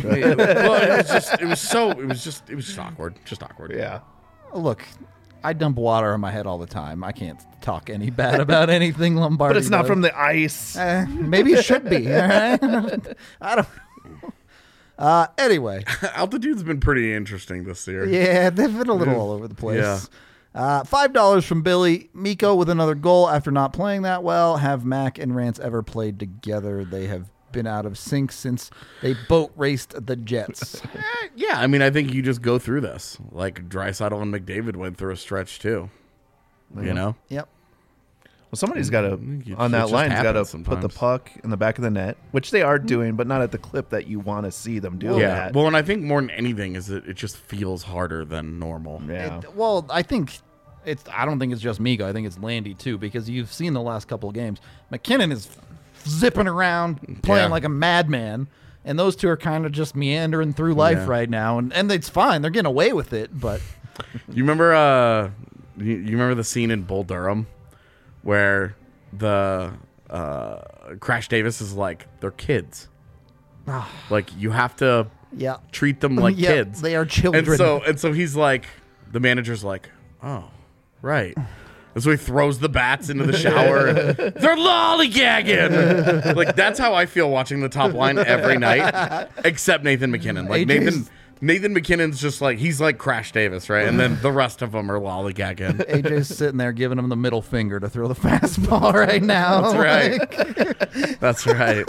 it was just awkward. Just awkward. Yeah. Look, I dump water on my head all the time. I can't talk any bad about anything Lombardi But it's not does. from the ice. Maybe it should be. All right? I don't know. Anyway. Altitude's been pretty interesting this year. Yeah, they've been a little all over the place. $5 from Billy. Miko with another goal after not playing that well. Have Mac and Rance ever played together? They have been out of sync since they boat raced the Jets. Yeah, I mean, I think you just go through this. Like Draisaitl and McDavid went through a stretch too. You know? Yep. Well, somebody's got to, It on that just line, got to happens put the sometimes. puck in the back of the net, which they are doing, but not at the clip that you want to see them do Yeah. that. Well, and I think more than anything is that it just feels harder than normal. Yeah. Well, I think I don't think it's just Miko. I think it's Landy too, because you've seen the last couple of games. McKinnon is zipping around, playing Yeah. like a madman, and those two are kind of just meandering through life Yeah. right now, and it's fine. They're getting away with it, but You remember you remember the scene in Bull Durham where the Crash Davis is like, they're kids. Like you have to yeah, treat them like yeah, kids. they are children. And so he's like, the manager's like, oh, right. And so he throws the bats into the shower. They're lollygagging. Like that's how I feel watching the top line every night, except Nathan McKinnon. Like AJ's Nathan McKinnon's just like, he's like Crash Davis, right? And then the rest of them are lollygagging. AJ's sitting there giving him the middle finger to throw the fastball right now. That's right. That's right.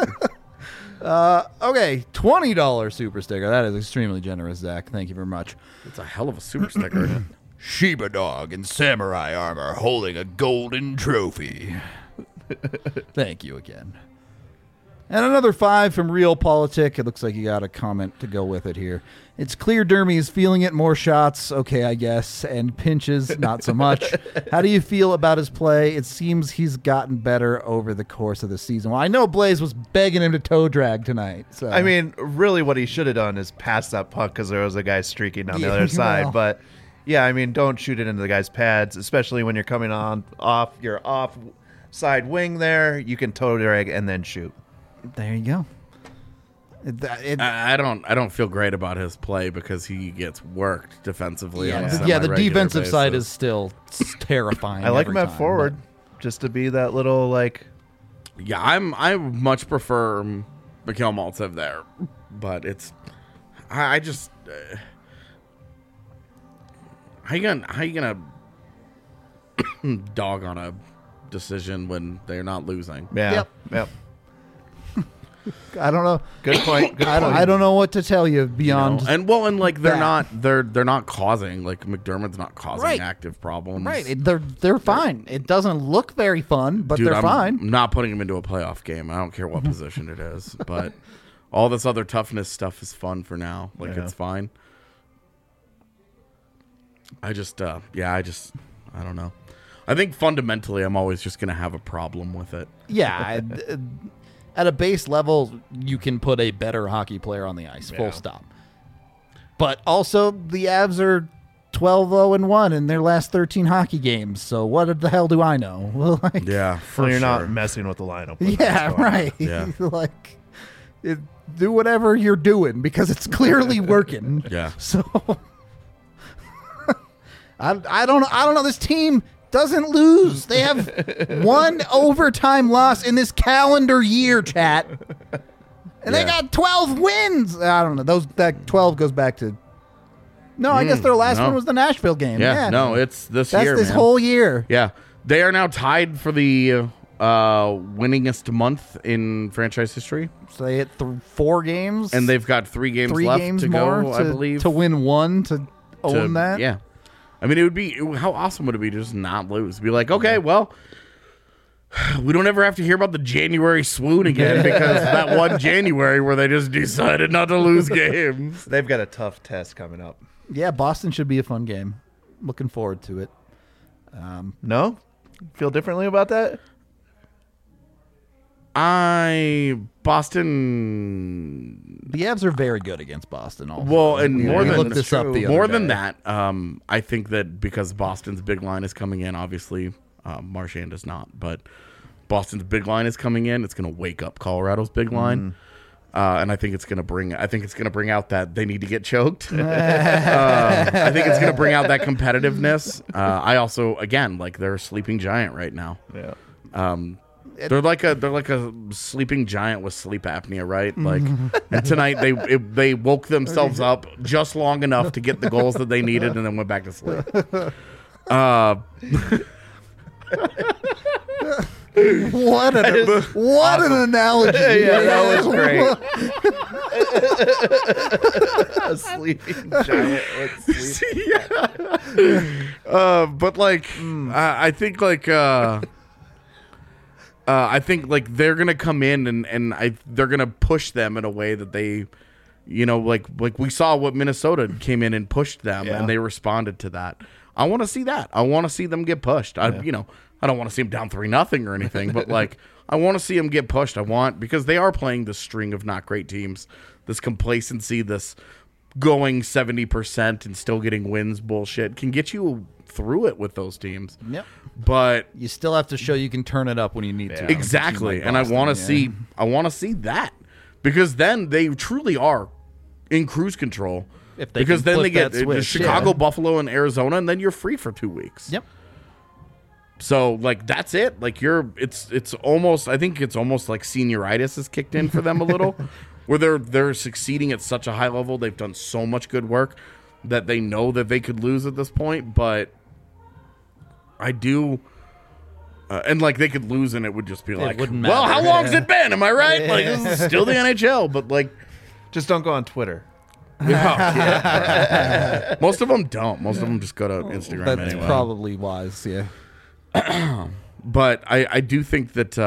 Okay, $20 super sticker. That is extremely generous, Zach. Thank you very much. It's a hell of a super sticker. Shiba dog in samurai armor holding a golden trophy. Thank you again. And another 5 from Realpolitik. It looks like you got a comment to go with it here. It's clear Dermy is feeling it. More shots, okay, I guess, and pinches, not so much. How do you feel about his play? It seems he's gotten better over the course of the season. Well, I know Blaze was begging him to toe drag tonight. So I mean, really what he should have done is pass that puck because there was a guy streaking down the Yeah, other side. well. But, yeah, I mean, don't shoot it into the guy's pads, especially when you're coming off your side wing there. You can toe drag and then shoot. there you go. I don't feel great about his play because he gets worked defensively. on a the semi-regular defensive side basis. is still terrifying. I like every him at time, forward just to be that little, like, Yeah, I much prefer Mikhail Maltsev there, but it's I just how you gonna dog on a decision when they're not losing? yeah. Yep. I don't know. Good point. Good I don't know what to tell you You beyond. know? And like they're that. not they're not causing, like McDermott's not causing Right. active problems. Right, they're fine. It doesn't look very fun, but Dude, they're I'm fine. not putting him into a playoff game. I don't care what position it is, but all this other toughness stuff is fun for now. Like Yeah. it's fine. I don't know. I think fundamentally, I'm always just gonna have a problem with it. Yeah, at a base level, you can put a better hockey player on the ice. Full Yeah. stop. But also, the Avs are 12-0-1 in their last 13 hockey games. So what the hell do I know? Well, like, Yeah, for Well, you're sure. not messing with the lineup. when yeah, that's going on. right. Yeah. Like, do whatever you're doing because it's clearly working. Yeah. So I don't know. This team doesn't lose. They have one overtime loss in this calendar year, chat. And they Yeah. got 12 wins. I don't know. That 12 goes back to. No, I guess their last no. one was the Nashville game. Yeah, no, it's this that's year. this man. whole year. Yeah, they are now tied for the winningest month in franchise history, So they hit 4 games, and they've got 3 games 3 left games to more go. I believe to win one to own that. Yeah, I mean, how awesome would it be to just not lose? Be like, okay, well, we don't ever have to hear about the January swoon again because that one January where they just decided not to lose games. They've got a tough test coming up. Yeah, Boston should be a fun game. Looking forward to it. No? Feel differently about that? Boston. The Avs are very good against Boston. Also, Well, and We more than looked this up the other more than day. that, I think that because Boston's big line is coming in, obviously, Marchand does not, but Boston's big line is coming in. It's going to wake up Colorado's big line. And I think it's going to bring out that they need to get choked. I think it's going to bring out that competitiveness. I also, again, like, they're a sleeping giant right now. Yeah. They're like a sleeping giant with sleep apnea, right? Like, and tonight they woke themselves up just long enough to get the goals that they needed, and then went back to sleep. What an analogy! Yeah, that was great. A sleeping giant with sleep. But like, I think they're gonna come in and they're gonna push them in a way that they, like we saw what Minnesota came in and pushed them, and they responded to that. I want to see that. I want to see them get pushed. I don't want to see them down 3-0 or anything, but like, I want to see them get pushed. Because they are playing this string of not great teams, this complacency, this going 70% and still getting wins bullshit can get you through it with those teams. Yep. But you still have to show you can turn it up when you need to. Exactly. And I want to see that, because then they truly are in cruise control. Because then they get Chicago, Buffalo, and Arizona, and then you're free for 2 weeks. Yep. So like, that's it. Like, it's almost, I think it's almost like senioritis has kicked in for them a little, where they're succeeding at such a high level. They've done so much good work that they know that they could lose at this point. But I do, and like, they could lose and it would just be like, well, how long's it been? Am I right? Like, this is still the NHL, but like, just don't go on Twitter. Most of them don't. Most of them just go to Instagram. That's anyway. probably wise. Yeah. But I do think that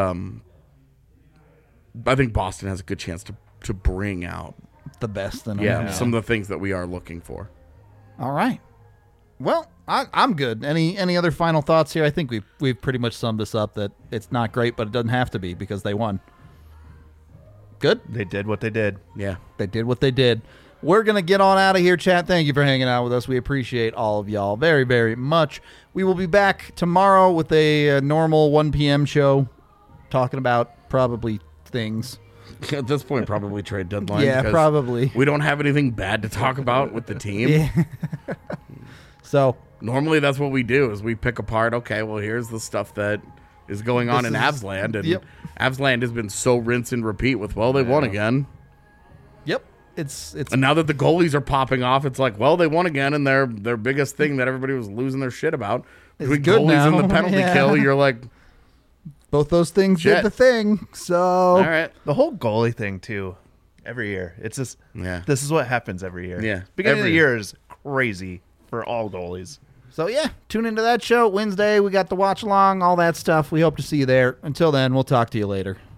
I think Boston has a good chance to bring out the best in them. Yeah, some of the things that we are looking for. All right. Well, I'm good. Any other final thoughts here? I think we've pretty much summed this up, that it's not great, but it doesn't have to be because they won. Good? They did what they did. Yeah. They did what they did. We're going to get on out of here, chat. Thank you for hanging out with us. We appreciate all of y'all very, very much. We will be back tomorrow with a normal 1 p.m. show talking about probably things. At this point, probably trade deadline. Yeah, probably. We don't have anything bad to talk about with the team. Yeah. So normally that's what we do, is we pick apart, okay, well, here's the stuff that is going on in Avsland. And Avsland has been so rinse and repeat with, well, they won again. Yep. It's and now that the goalies are popping off, it's like, well, they won again, and their biggest thing that everybody was losing their shit about, between goalies now. And the penalty kill, you're like, both those things did the thing. So all right, the whole goalie thing too. Every year, it's just this is what happens every year. Yeah, beginning of the year is crazy for all goalies. So yeah, tune into that show Wednesday. We got the watch along, all that stuff. We hope to see you there. Until then, we'll talk to you later.